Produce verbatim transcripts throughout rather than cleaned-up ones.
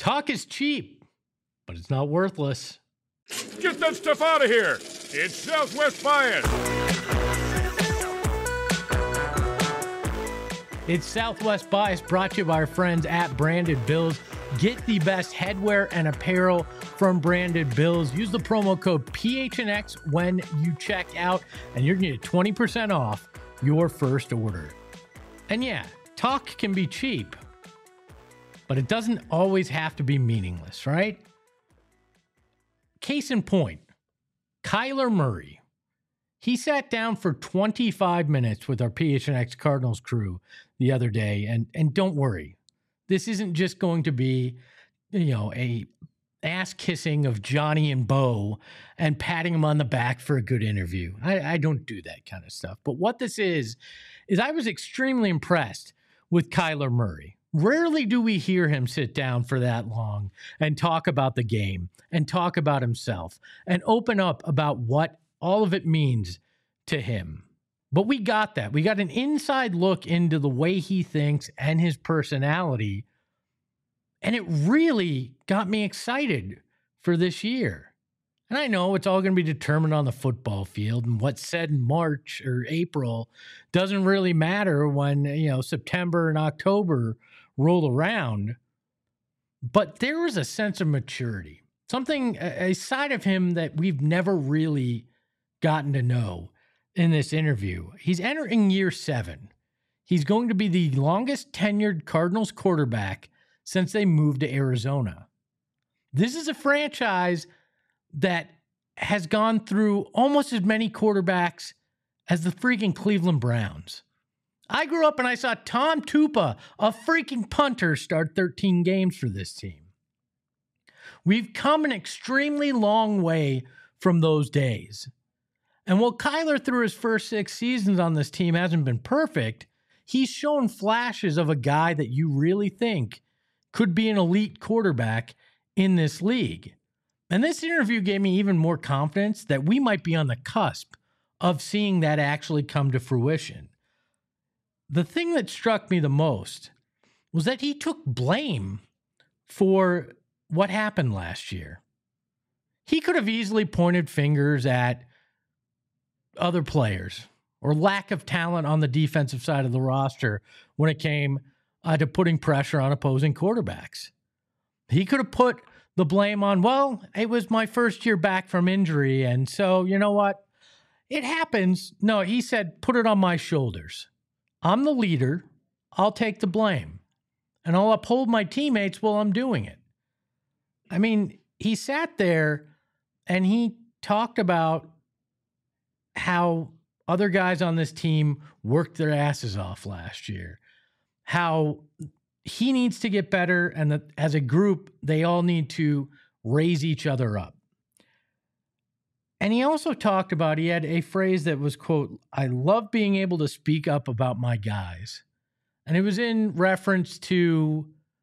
Talk is cheap, but it's not worthless. Get that stuff out of here. It's Southwest Bias. It's Southwest Bias, brought to you by our friends at Branded Bills. Get the best headwear and apparel from Branded Bills. Use the promo code P H N X when you check out, and you're going to get twenty percent off your first order. And yeah, talk can be cheap, but it doesn't always have to be meaningless, right? Case in point, Kyler Murray. He sat down for twenty-five minutes with our P H N X Cardinals crew the other day, and and don't worry, this isn't just going to be, you know, a ass kissing of Johnny and Bo and patting him on the back for a good interview. I, I don't do that kind of stuff. But what this is, is I was extremely impressed with Kyler Murray. Rarely do we hear him sit down for that long and talk about the game and talk about himself and open up about what all of it means to him. But we got that. We got an inside look into the way he thinks and his personality. And it really got me excited for this year. And I know it's all going to be determined on the football field, and what's said in March or April doesn't really matter when, you know, September and October roll around. But there was a sense of maturity, something, a side of him that we've never really gotten to know in this interview. He's entering year seven. He's going to be the longest tenured Cardinals quarterback since they moved to Arizona. This is a franchise that has gone through almost as many quarterbacks as the freaking Cleveland Browns. I grew up and I saw Tom Tupa, a freaking punter, start thirteen games for this team. We've come an extremely long way from those days. And while Kyler, through his first six seasons on this team, hasn't been perfect, he's shown flashes of a guy that you really think could be an elite quarterback in this league. And this interview gave me even more confidence that we might be on the cusp of seeing that actually come to fruition. The thing that struck me the most was that he took blame for what happened last year. He could have easily pointed fingers at other players or lack of talent on the defensive side of the roster when it came uh, to putting pressure on opposing quarterbacks. He could have put the blame on, well, it was my first year back from injury, and so, you know what? It happens. No, he said, put it on my shoulders. I'm the leader. I'll take the blame. And I'll uphold my teammates while I'm doing it. I mean, he sat there and he talked about how other guys on this team worked their asses off last year, how he needs to get better, and that as a group, they all need to raise each other up. And he also talked about, he had a phrase that was, quote, I love being able to speak up about my guys. And it was in reference to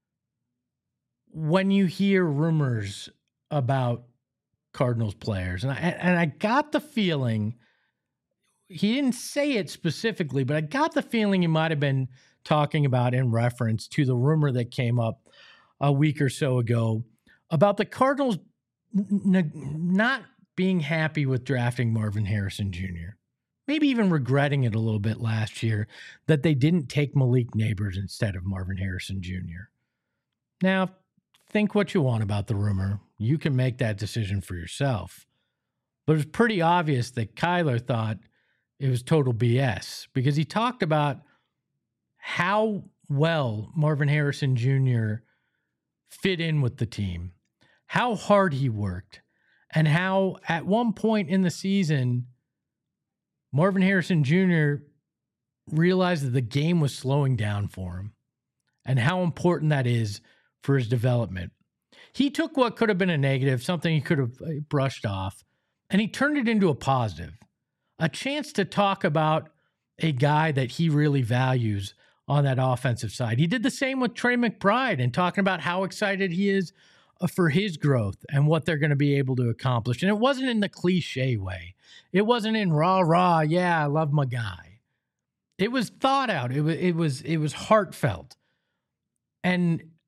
when you hear rumors about Cardinals players. And I, and I got the feeling, he didn't say it specifically, but I got the feeling he might have been talking about in reference to the rumor that came up a week or so ago about the Cardinals n- not being happy with drafting Marvin Harrison Junior Maybe even regretting it a little bit last year that they didn't take Malik Nabers instead of Marvin Harrison Junior Now, think what you want about the rumor. You can make that decision for yourself. But it was pretty obvious that Kyler thought it was total B S because he talked about how well Marvin Harrison Junior fit in with the team, how hard he worked, and how at one point in the season, Marvin Harrison Junior realized that the game was slowing down for him and how important that is for his development. He took what could have been a negative, something he could have brushed off, and he turned it into a positive, a chance to talk about a guy that he really values on that offensive side. He did the same with Trey McBride and talking about how excited he is for his growth and what they're going to be able to accomplish. And it wasn't in the cliche way. It wasn't in rah, rah, yeah, I love my guy. It was thought out. It was, it was, it was heartfelt. And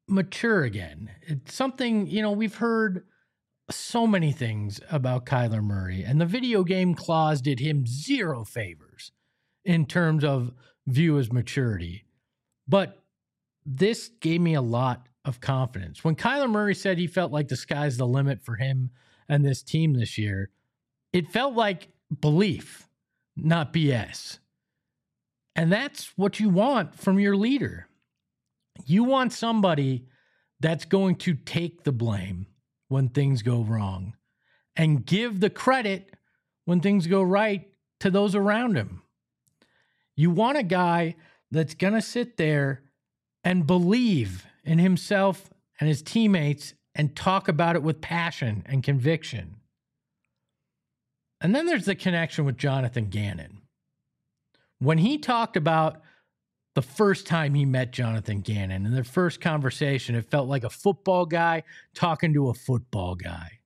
mature again. It's something, you know, we've heard so many things about Kyler Murray, and the video game clause did him zero favors in terms of view as maturity. But this gave me a lot of confidence. When Kyler Murray said he felt like the sky's the limit for him and this team this year, it felt like belief, not B S. And that's what you want from your leader. You want somebody that's going to take the blame when things go wrong and give the credit when things go right to those around him. You want a guy that's going to sit there and believe in himself and his teammates and talk about it with passion and conviction. And then there's the connection with Jonathan Gannon. When he talked about the first time he met Jonathan Gannon in their first conversation, it felt like a football guy talking to a football guy.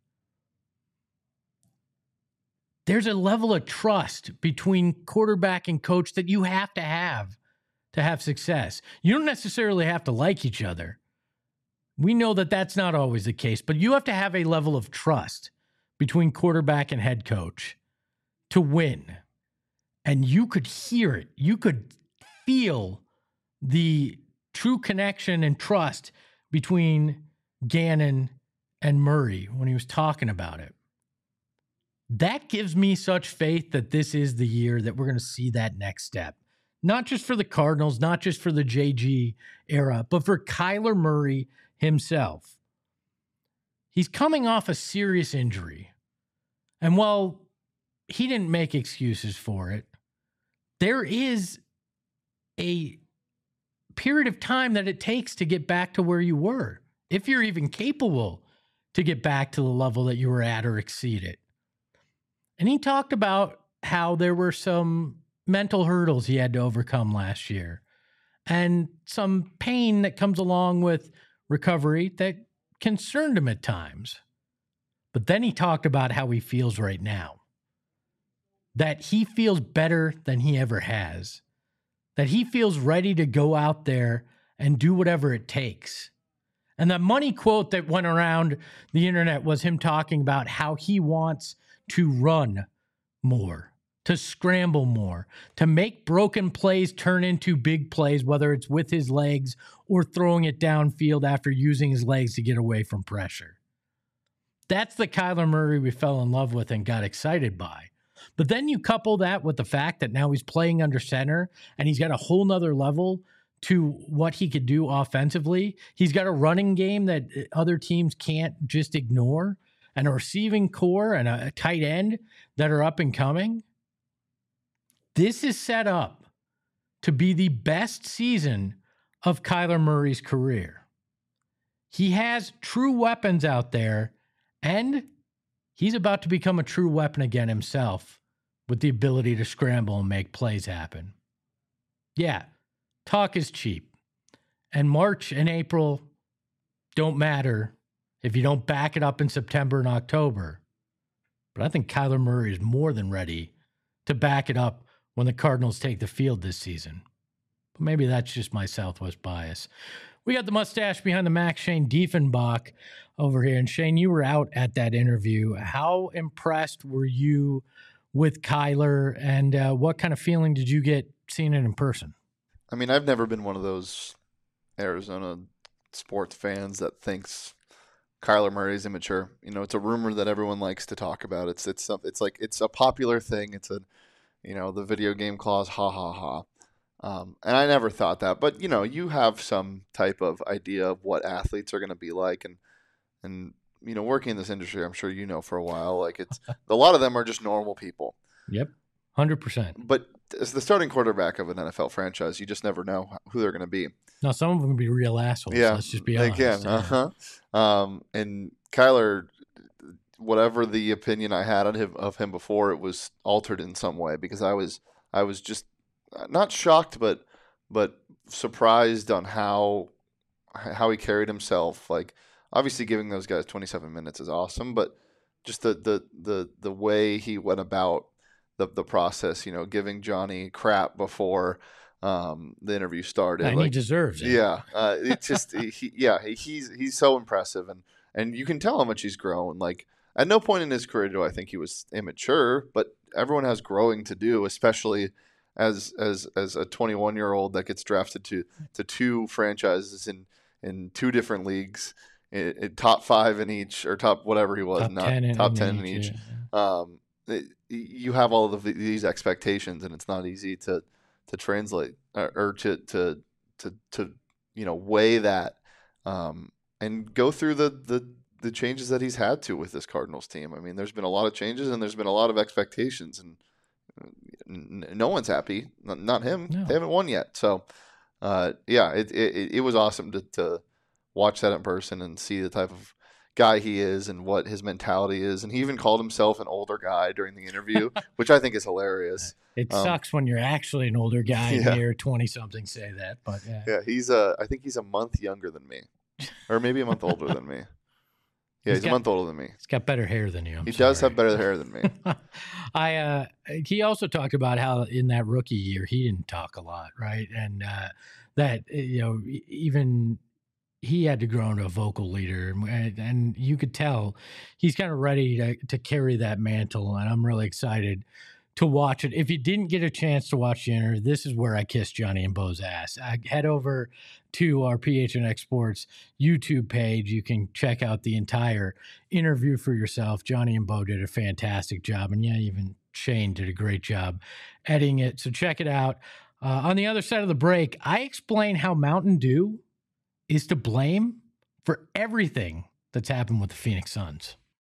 There's a level of trust between quarterback and coach that you have to have to have success. You don't necessarily have to like each other. We know that that's not always the case, but you have to have a level of trust between quarterback and head coach to win. And you could hear it. You could feel the true connection and trust between Gannon and Murray when he was talking about it. That gives me such faith that this is the year that we're going to see that next step. Not just for the Cardinals, not just for the J G era, but for Kyler Murray himself. He's coming off a serious injury. And while he didn't make excuses for it, there is a period of time that it takes to get back to where you were, if you're even capable to get back to the level that you were at or exceed it. And he talked about how there were some mental hurdles he had to overcome last year and some pain that comes along with recovery that concerned him at times. But then he talked about how he feels right now, that he feels better than he ever has, that he feels ready to go out there and do whatever it takes. And the money quote that went around the internet was him talking about how he wants to run more, to scramble more, to make broken plays turn into big plays, whether it's with his legs or throwing it downfield after using his legs to get away from pressure. That's the Kyler Murray we fell in love with and got excited by. But then you couple that with the fact that now he's playing under center and he's got a whole nother level to what he could do offensively. He's got a running game that other teams can't just ignore, and a receiving core and a tight end that are up and coming. This is set up to be the best season of Kyler Murray's career. He has true weapons out there, and he's about to become a true weapon again himself with the ability to scramble and make plays happen. Yeah, talk is cheap. And March and April don't matter if you don't back it up in September and October. But I think Kyler Murray is more than ready to back it up when the Cardinals take the field this season. But maybe that's just my Southwest bias. We got the mustache behind the Mac, Shane Diefenbach, over here. And Shane, you were out at that interview. How impressed were you with Kyler, and uh, what kind of feeling did you get seeing it in person? I mean, I've never been one of those Arizona sports fans that thinks Kyler Murray is immature. You know, it's a rumor that everyone likes to talk about. It's it's it's like it's a popular thing. It's a, you know, the video game clause, ha ha ha. Um, and I never thought that, but you know, you have some type of idea of what athletes are going to be like, and and you know, working in this industry, I'm sure you know for a while, like it's a lot of them are just normal people. Yep, one hundred percent. But as the starting quarterback of an N F L franchise, you just never know who they're going to be. Now, some of them can be real assholes. Yeah, let's just be they honest. can. Uh huh. Um, and Kyler, whatever the opinion I had of him, of him before, it was altered in some way, because I was I was just not shocked, but but surprised on how how he carried himself. Like, obviously, giving those guys twenty-seven minutes is awesome, but just the the the, the way he went about the the process. You know, giving Johnny crap before um, the interview started. And like, he deserves it. Yeah, uh, it's just he, yeah, he's he's so impressive, and and you can tell how much he's grown. Like at no point in his career do I think he was immature, but everyone has growing to do, especially as as as a twenty-one year old that gets drafted to to two franchises in in two different leagues, in, in top five in each, or top whatever he was, Top not ten in, top in ten in each. each. Yeah. Um, it, you have all of these expectations, and it's not easy to to translate or, or to to to to you know weigh that um, and go through the the the changes that he's had to with this Cardinals team. I mean, there's been a lot of changes, and there's been a lot of expectations, and no one's happy. Not him. No. They haven't won yet. So, uh, yeah, it, it it was awesome to to watch that in person and see the type of guy he is and what his mentality is. And he even called himself an older guy during the interview, which I think is hilarious. It Um, sucks when you're actually an older guy yeah. and you're twenty-something say that, but yeah. Yeah, he's uh, I think he's a month younger than me, or maybe a month older than me. Yeah, He's he's, got- a month older than me. He's got better hair than you. I'm He does sorry. have better hair than me. I uh he also talked about how in that rookie year he didn't talk a lot, right? And uh that you know e- even he had to grow into a vocal leader, and, and you could tell he's kind of ready to, to carry that mantle, and I'm really excited to watch it. If you didn't get a chance to watch the interview, this is where I kiss Johnny and Bo's ass. I head over to our P H N X Sports YouTube page. You can check out the entire interview for yourself. Johnny and Bo did a fantastic job, and yeah, even Shane did a great job editing it. So check it out. Uh, on the other side of the break, I explain how Mountain Dew is to blame for everything that's happened with the Phoenix Suns.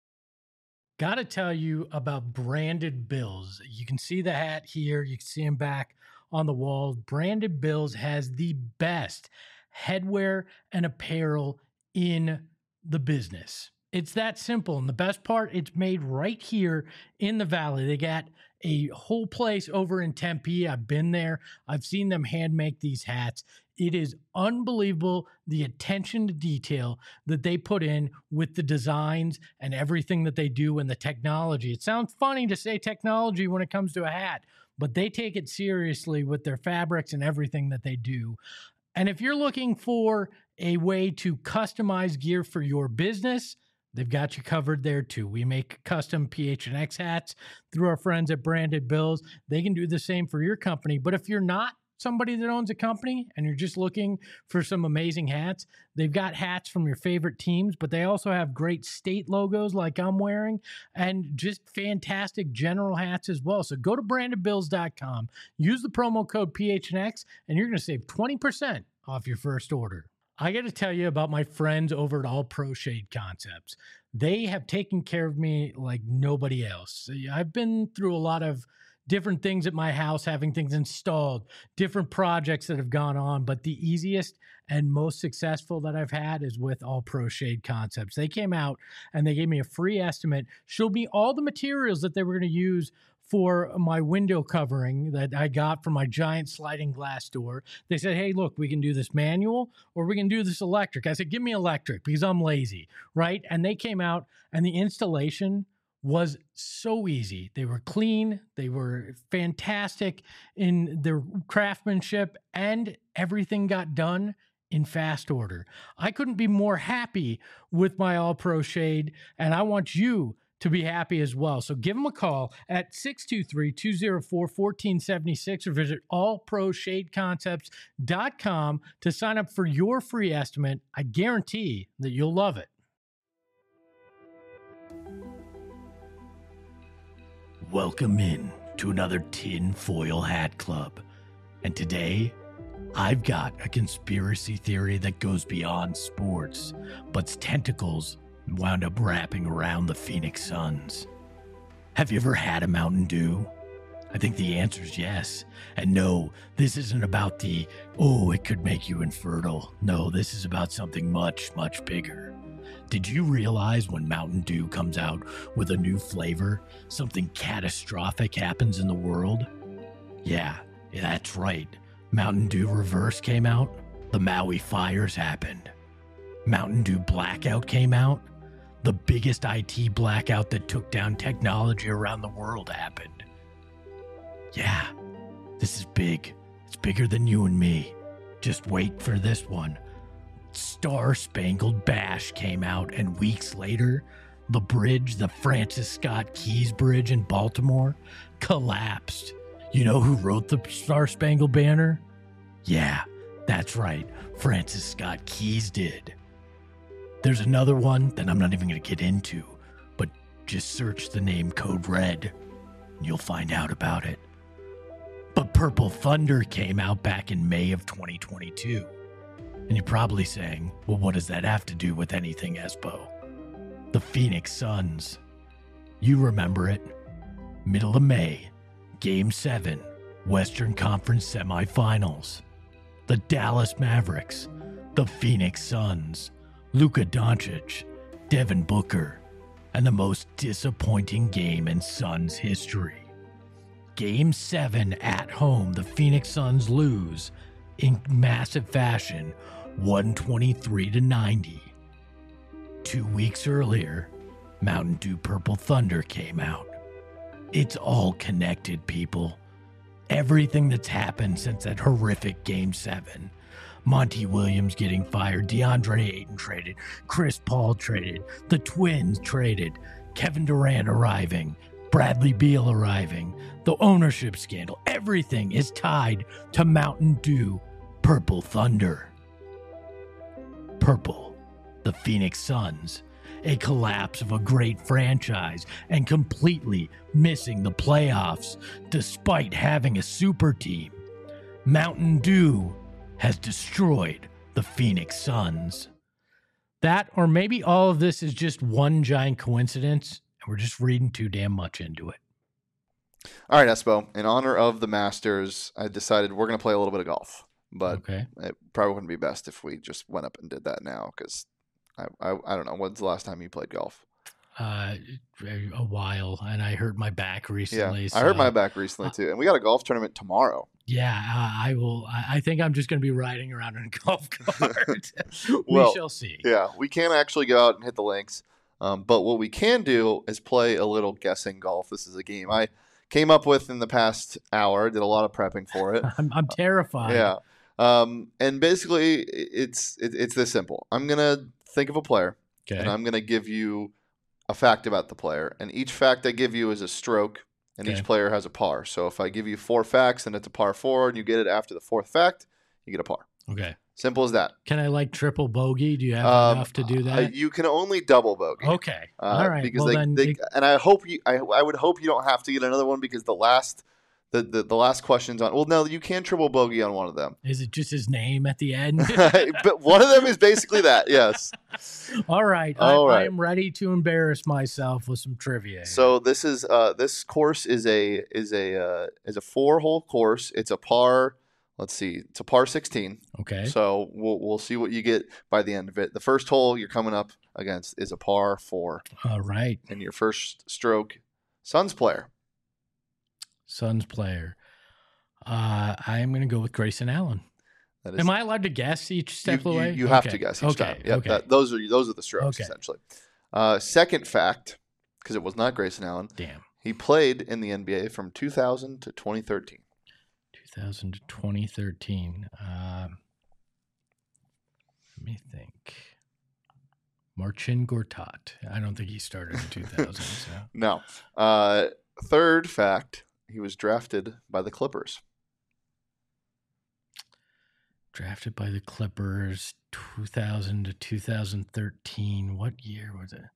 Got to tell you about Branded Bills. You can see the hat here. You can see him back on the wall. Branded Bills has the best headwear and apparel in the business. It's that simple. And the best part, it's made right here in the Valley. They got a whole place over in Tempe. I've been there. I've seen them hand make these hats. It is unbelievable the attention to detail that they put in with the designs and everything that they do and the technology. It sounds funny to say technology when it comes to a hat, but they take it seriously with their fabrics and everything that they do. And if you're looking for a way to customize gear for your business, they've got you covered there too. We make custom P H N X hats through our friends at Branded Bills. They can do the same for your company. But if you're not somebody that owns a company and you're just looking for some amazing hats, they've got hats from your favorite teams, but they also have great state logos like I'm wearing and just fantastic general hats as well. So go to branded bills dot com, use the promo code P H N X, and you're going to save twenty percent off your first order. I got to tell you about my friends over at All Pro Shade Concepts. They have taken care of me like nobody else. I've been through a lot of different things at my house, having things installed, different projects that have gone on, but the easiest and most successful that I've had is with All Pro Shade Concepts. They came out and they gave me a free estimate, showed me all the materials that they were going to use for my window covering that I got from my giant sliding glass door. They said, hey, look, we can do this manual or we can do this electric. I said, give me electric because I'm lazy, right? And they came out and the installation was so easy. They were clean. They were fantastic in their craftsmanship, and everything got done in fast order. I couldn't be more happy with my All Pro Shade, and I want you to be happy as well. So give them a call at six two three, two oh four, one four seven six or visit all pro shade concepts dot com to sign up for your free estimate. I guarantee that you'll love it. Welcome in to another Tin Foil Hat Club. And today, I've got a conspiracy theory that goes beyond sports, but's tentacles wound up wrapping around the Phoenix Suns. Have you ever had a Mountain Dew? I think the answer is yes. And no, this isn't about the, oh, it could make you infertile. No, this is about something much, much bigger. Did you realize when Mountain Dew comes out with a new flavor, something catastrophic happens in the world? Yeah, that's right. Mountain Dew Reverse came out. The Maui fires happened. Mountain Dew Blackout came out. The biggest I T blackout that took down technology around the world happened. Yeah, this is big. It's bigger than you and me. Just wait for this one. Star Spangled Bash came out, and weeks later, the bridge, the Francis Scott Keys Bridge in Baltimore, collapsed. You know who wrote the Star Spangled Banner? Yeah, that's right. Francis Scott Keys did. There's another one that I'm not even going to get into, but just search the name Code Red, and you'll find out about it. But Purple Thunder came out back in May of twenty twenty-two. And you're probably saying, well, what does that have to do with anything, Espo? The Phoenix Suns. You remember it. Middle of May, Game seven, Western Conference Semifinals. The Dallas Mavericks, the Phoenix Suns, Luka Doncic, Devin Booker, and the most disappointing game in Suns history. Game seven at home, the Phoenix Suns lose in massive fashion, one twenty-three to ninety. Two weeks earlier, Mountain Dew Purple Thunder came out. It's all connected, people. Everything that's happened since that horrific Game seven. Monty Williams getting fired, DeAndre Ayton traded, Chris Paul traded, the Twins traded, Kevin Durant arriving, Bradley Beal arriving, the ownership scandal. Everything is tied to Mountain Dew Purple Thunder. Purple, the Phoenix Suns, a collapse of a great franchise and completely missing the playoffs despite having a super team. Mountain Dew has destroyed the Phoenix Suns. That, or maybe all of this is just one giant coincidence, and we're just reading too damn much into it. All right, Espo. In honor of the Masters, I decided we're going to play a little bit of golf. But okay. It probably wouldn't be best if we just went up and did that now, because I, I I don't know. When's the last time you played golf? Uh, a while, and I hurt my back recently. Yeah, so, I hurt my back recently too, and we got a golf tournament tomorrow. Yeah, uh, I will. I, I think I'm just going to be riding around in a golf cart. Well, we shall see. Yeah, we can't actually go out and hit the links, um, but what we can do is play a little guessing golf. This is a game I came up with in the past hour. Did a lot of prepping for it. I'm, I'm terrified. Yeah, um, and basically it's it, it's this simple. I'm gonna think of a player, okay, and I'm gonna give you a fact about the player, and each fact I give you is a stroke, and okay. each player has a par. So if I give you four facts and it's a par four, and you get it after the fourth fact, you get a par. Okay. Simple as that. Can I like triple bogey? Do you have Um, enough to do Uh, that? you can only double bogey. Okay. Uh, All right. Because well, they, then they, it- and I hope you, I, I would hope you don't have to get another one, because the last, the, the, the last question's on. Well, no, you can triple bogey on one of them. is it just his name at the end? But one of them is basically that. Yes. All right. All I, right. I am ready to embarrass myself with some trivia. So this is uh this course is a is a uh, is a four hole course. It's a par. Let's see. It's a par sixteen. Okay. So we'll we'll see what you get by the end of it. The first hole you're coming up against is a par four, All right. and your first stroke, Suns player. Suns player. Uh, I am going to go with Grayson Allen. That is, Am I allowed to guess each you, step you, away? you have Okay. to guess each okay. time. Yep, okay. that, those are those are the strokes Okay. essentially. Uh, second fact, because it was not Grayson Allen. Damn. He played in the N B A from two thousand to twenty thirteen. two thousand to twenty thirteen. Um, let me think. Marcin Gortat. I don't think he started in two thousand. So. No. Uh, third fact, he was drafted by the Clippers. Drafted by the Clippers, two thousand to two thousand thirteen. What year was it?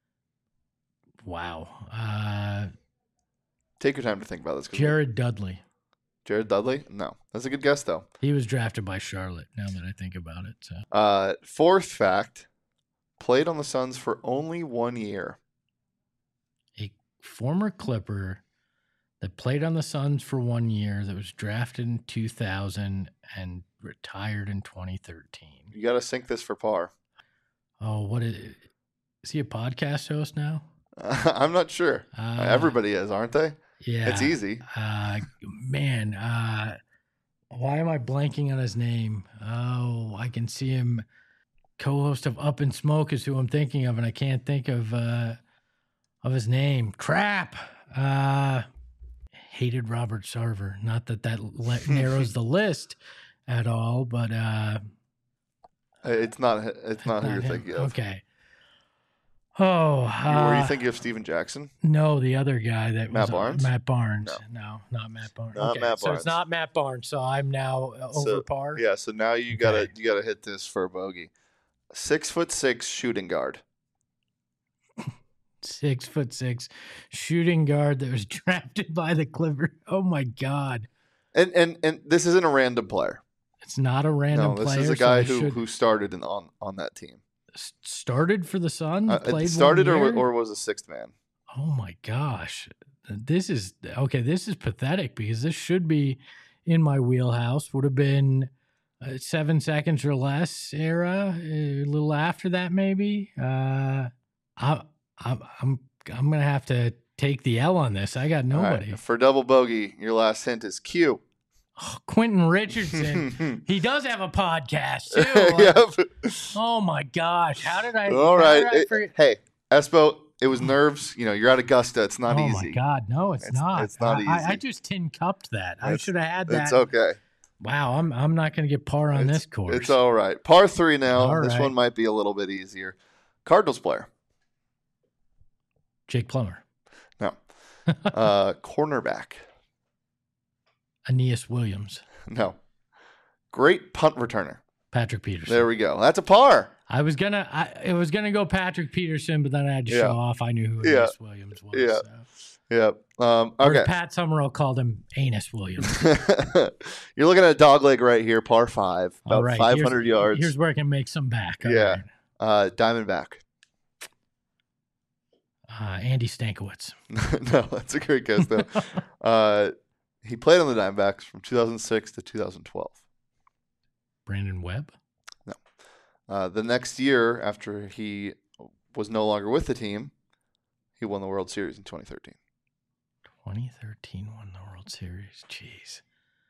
Wow. Uh, Take your time to think about this. 'cause Jared Dudley. Jared Dudley? No. That's a good guess, though. He was drafted by Charlotte, now that I think about it. So. Uh, fourth fact, played on the Suns for only one year. A former Clipper that played on the Suns for one year, that was drafted in two thousand and retired in twenty thirteen. You got to sync this for par. Oh, what is, is he a podcast host now? I'm not sure. Uh, Everybody is, aren't they? Yeah. It's easy. Uh, man, uh, why am I blanking on his name? Oh, I can see him. Co-host of Up in Smoke is who I'm thinking of, and I can't think of uh, of his name. Crap. Uh, hated Robert Sarver. Not that that le- narrows the list at all, but uh, It's not. It's not, not who you're him. thinking of. Okay. Oh, You- Were you uh, thinking of Steven Jackson? no, the other guy that Matt was Barnes? Matt Barnes. No. not Matt Barnes. Not okay, Matt so Barnes. it's not Matt Barnes. So I'm now uh, over So, par. Yeah. So now you gotta Okay. you gotta hit this for a bogey. Six foot six shooting guard. Six foot six shooting guard that was drafted by the Clippers. Oh my God. And and and this isn't a random player. It's not a random No, this player. is a so guy I who should- who started in, on on that team. s- started for the Suns. Uh, played it started one or year? or was a sixth man. Oh my gosh. This is okay. This is pathetic because this should be in my wheelhouse. Would have been uh, seven seconds or less era, a little after that, maybe. Uh, I, I'm, I'm, I'm going to have to take the L on this. I got All right, nobody. for double bogey, your last hint is Q. Oh, Quentin Richardson. He does have a podcast too. Yep. Oh my gosh. How did I? All how right. did I It- forget? hey, Espo, it was nerves. You know, you're at Augusta. It's not oh easy. my God. No, it's, It's- not. it's not I, I- I easy. just tin cupped that. I It's- should have had that. It's okay. Wow, I'm I'm not going to get par on It's- this course. It's all right. Par three now. All This right. one might be a little bit easier. Cardinals player. Jake Plummer, No. Uh, cornerback. Aeneas Williams, No. Great punt returner. Patrick Peterson. There we go. That's a par. I was gonna I it was gonna go Patrick Peterson, but then I had to Yeah. show off. I knew who Yeah. Aeneas Williams was. Yeah. so. Yep. Um, Or okay. Pat Summerall called him Anus Williams. You're looking at a dog leg right here, par five, about All right, five hundred here's, yards. Here's where I can make some back. All Yeah. right. Uh, Diamondback. Uh, Andy Stankiewicz. No, that's a great guess though. uh, he played on the Diamondbacks from two thousand six to two thousand twelve. Brandon Webb. Uh, the next year, after he was no longer with the team, he won the World Series in twenty thirteen. twenty thirteen won the World Series. Jeez.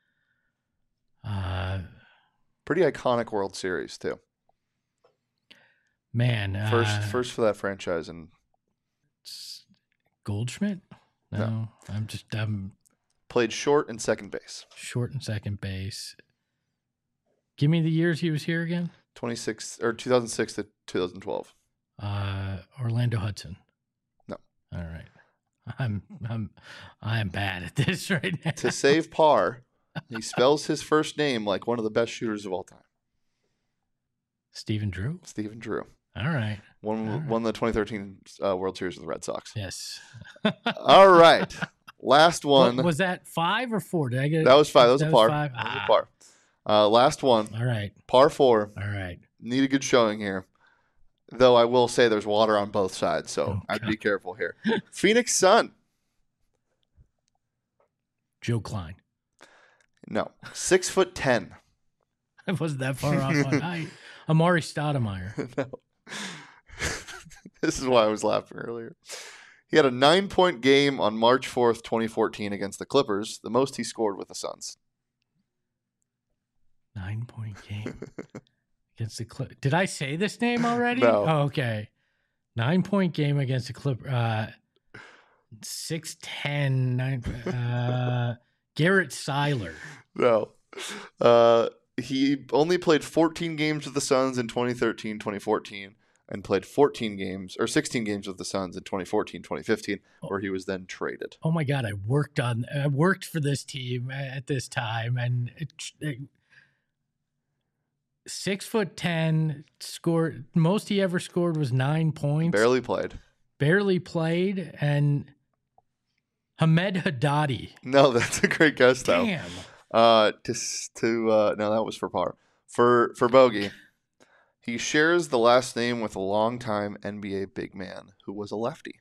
Uh, Pretty iconic World Series too. man. First, uh, first for that franchise, and S- Goldschmidt? No, No. I'm just I'm played short and second base. short and second base. Give me the years he was here again. twenty-six or two thousand six to two thousand twelve. Uh, Orlando Hudson. No. All right. I'm I'm I'm bad at this right now. To save par, he spells his first name like one of the best shooters of all time. Stephen Drew. Stephen Drew All right. won All right. won the twenty thirteen uh, World Series with the Red Sox. Yes. All right, last What, one. was that five or four? Did I get it? That was five. That was a par. five? That was Ah. a par. Uh, last one, All right. par four. All right. Need a good showing here. Though I will say there's water on both sides, so Oh, I'd God. be careful here. Phoenix Sun. Joe Klein. No. Six foot ten. I wasn't that far off on height. Amari Stoudemire. No. This is why I was laughing earlier. He had a nine point game on March fourth, twenty fourteen against the Clippers, the most he scored with the Suns. Nine point game against the Clip. Did I say this name already? No. Oh, okay. Nine point game against the Clip. Uh, six ten. Nine. Uh, Garrett Seiler. No. Uh, he only played fourteen games with the Suns in twenty thirteen, twenty fourteen, and played fourteen games or sixteen games with the Suns in twenty fourteen, twenty fifteen, where he was then traded. Oh my God! I worked on. I worked for this team at this time, and it, it, six foot ten scored. Most he ever scored was nine points. Barely played. barely played, and Hamed Haddadi. No, that's a great guess though. Damn. Uh, to s- to uh, no, that was for par. For for bogey, he shares the last name with a longtime N B A big man who was a lefty.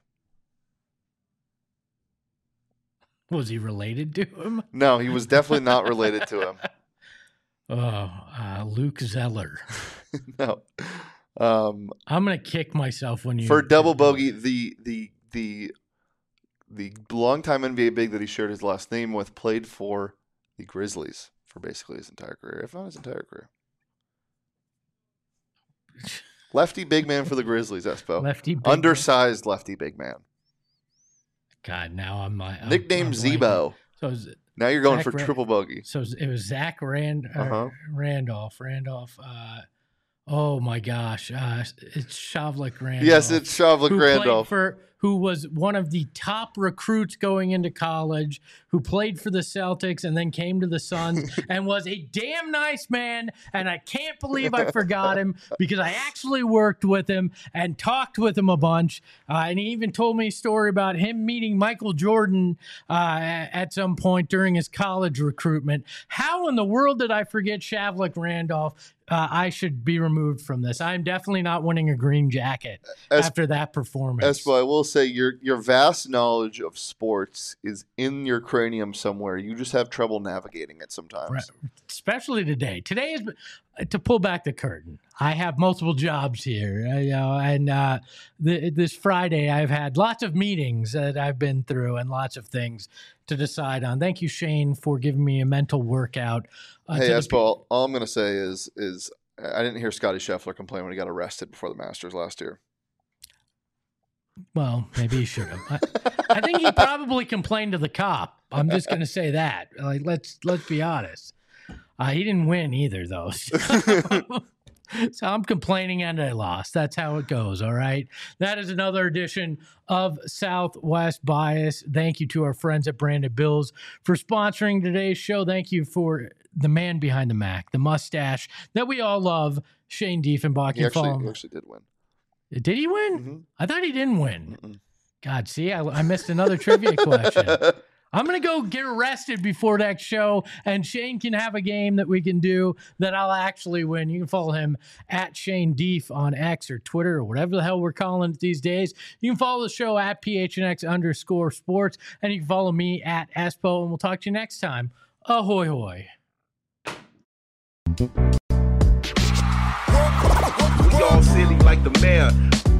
Was he related to him? No, he was definitely not related to him. Oh, uh, Luke Zeller. No. Um, I'm gonna kick myself when you for double bogey, the the the the longtime N B A big that he shared his last name with played for the Grizzlies for basically his entire career, if not his entire career. Lefty big man for the Grizzlies, Espo. Lefty big Undersized lefty big man. God, now I'm like I'm- Nickname I'm blanking. Zebo. So it was, Now you're going Zach for Ra- triple bogey. so it was Zach Rand, uh, Uh-huh. Randolph. Randolph. Uh, oh my gosh, uh, it's Shavlik Randolph. Yes, it's Shavlik who played Randolph. for who was one of the top recruits going into college, who played for the Celtics and then came to the Suns and was a damn nice man. And I can't believe I forgot him because I actually worked with him and talked with him a bunch. Uh, and he even told me a story about him meeting Michael Jordan uh, at some point during his college recruitment. How in the world did I forget Shavlik Randolph? Uh, I should be removed from this. I'm definitely not winning a green jacket Es- after that performance. Espo, I will say your your vast knowledge of sports is in your cranium somewhere. You just have trouble navigating it sometimes. Right. Especially today. Today is to pull back the curtain. I have multiple jobs here, uh, you know, and uh, the, this Friday I've had lots of meetings that I've been through and lots of things to decide on. Thank you, Shane, for giving me a mental workout. Uh, Hey, to the Espo, all, all I'm going to say is is I didn't hear Scotty Scheffler complain when he got arrested before the Masters last year. Well, maybe he should have. I, I think he probably complained to the cop. I'm just going to say that. Like, let's let's be honest. Uh, he didn't win either, though. So, so I'm complaining and I lost. That's how it goes. All right. That is another edition of Southwest Bias. Thank you to our friends at Branded Bills for sponsoring today's show. Thank you for the man behind the Mac, the mustache that we all love, Shane Diefenbach. He actually, he actually did win. Did he win? Mm-hmm. I thought he didn't win. Mm-mm. God, see, I, I missed another trivia question. I'm going to go get arrested before next show, and Shane can have a game that we can do that I'll actually win. You can follow him at Shane Deef on X or Twitter or whatever the hell we're calling it these days. You can follow the show at P H N X underscore sports, and you can follow me at Espo, and we'll talk to you next time. Ahoy, hoy. We all silly like the mayor.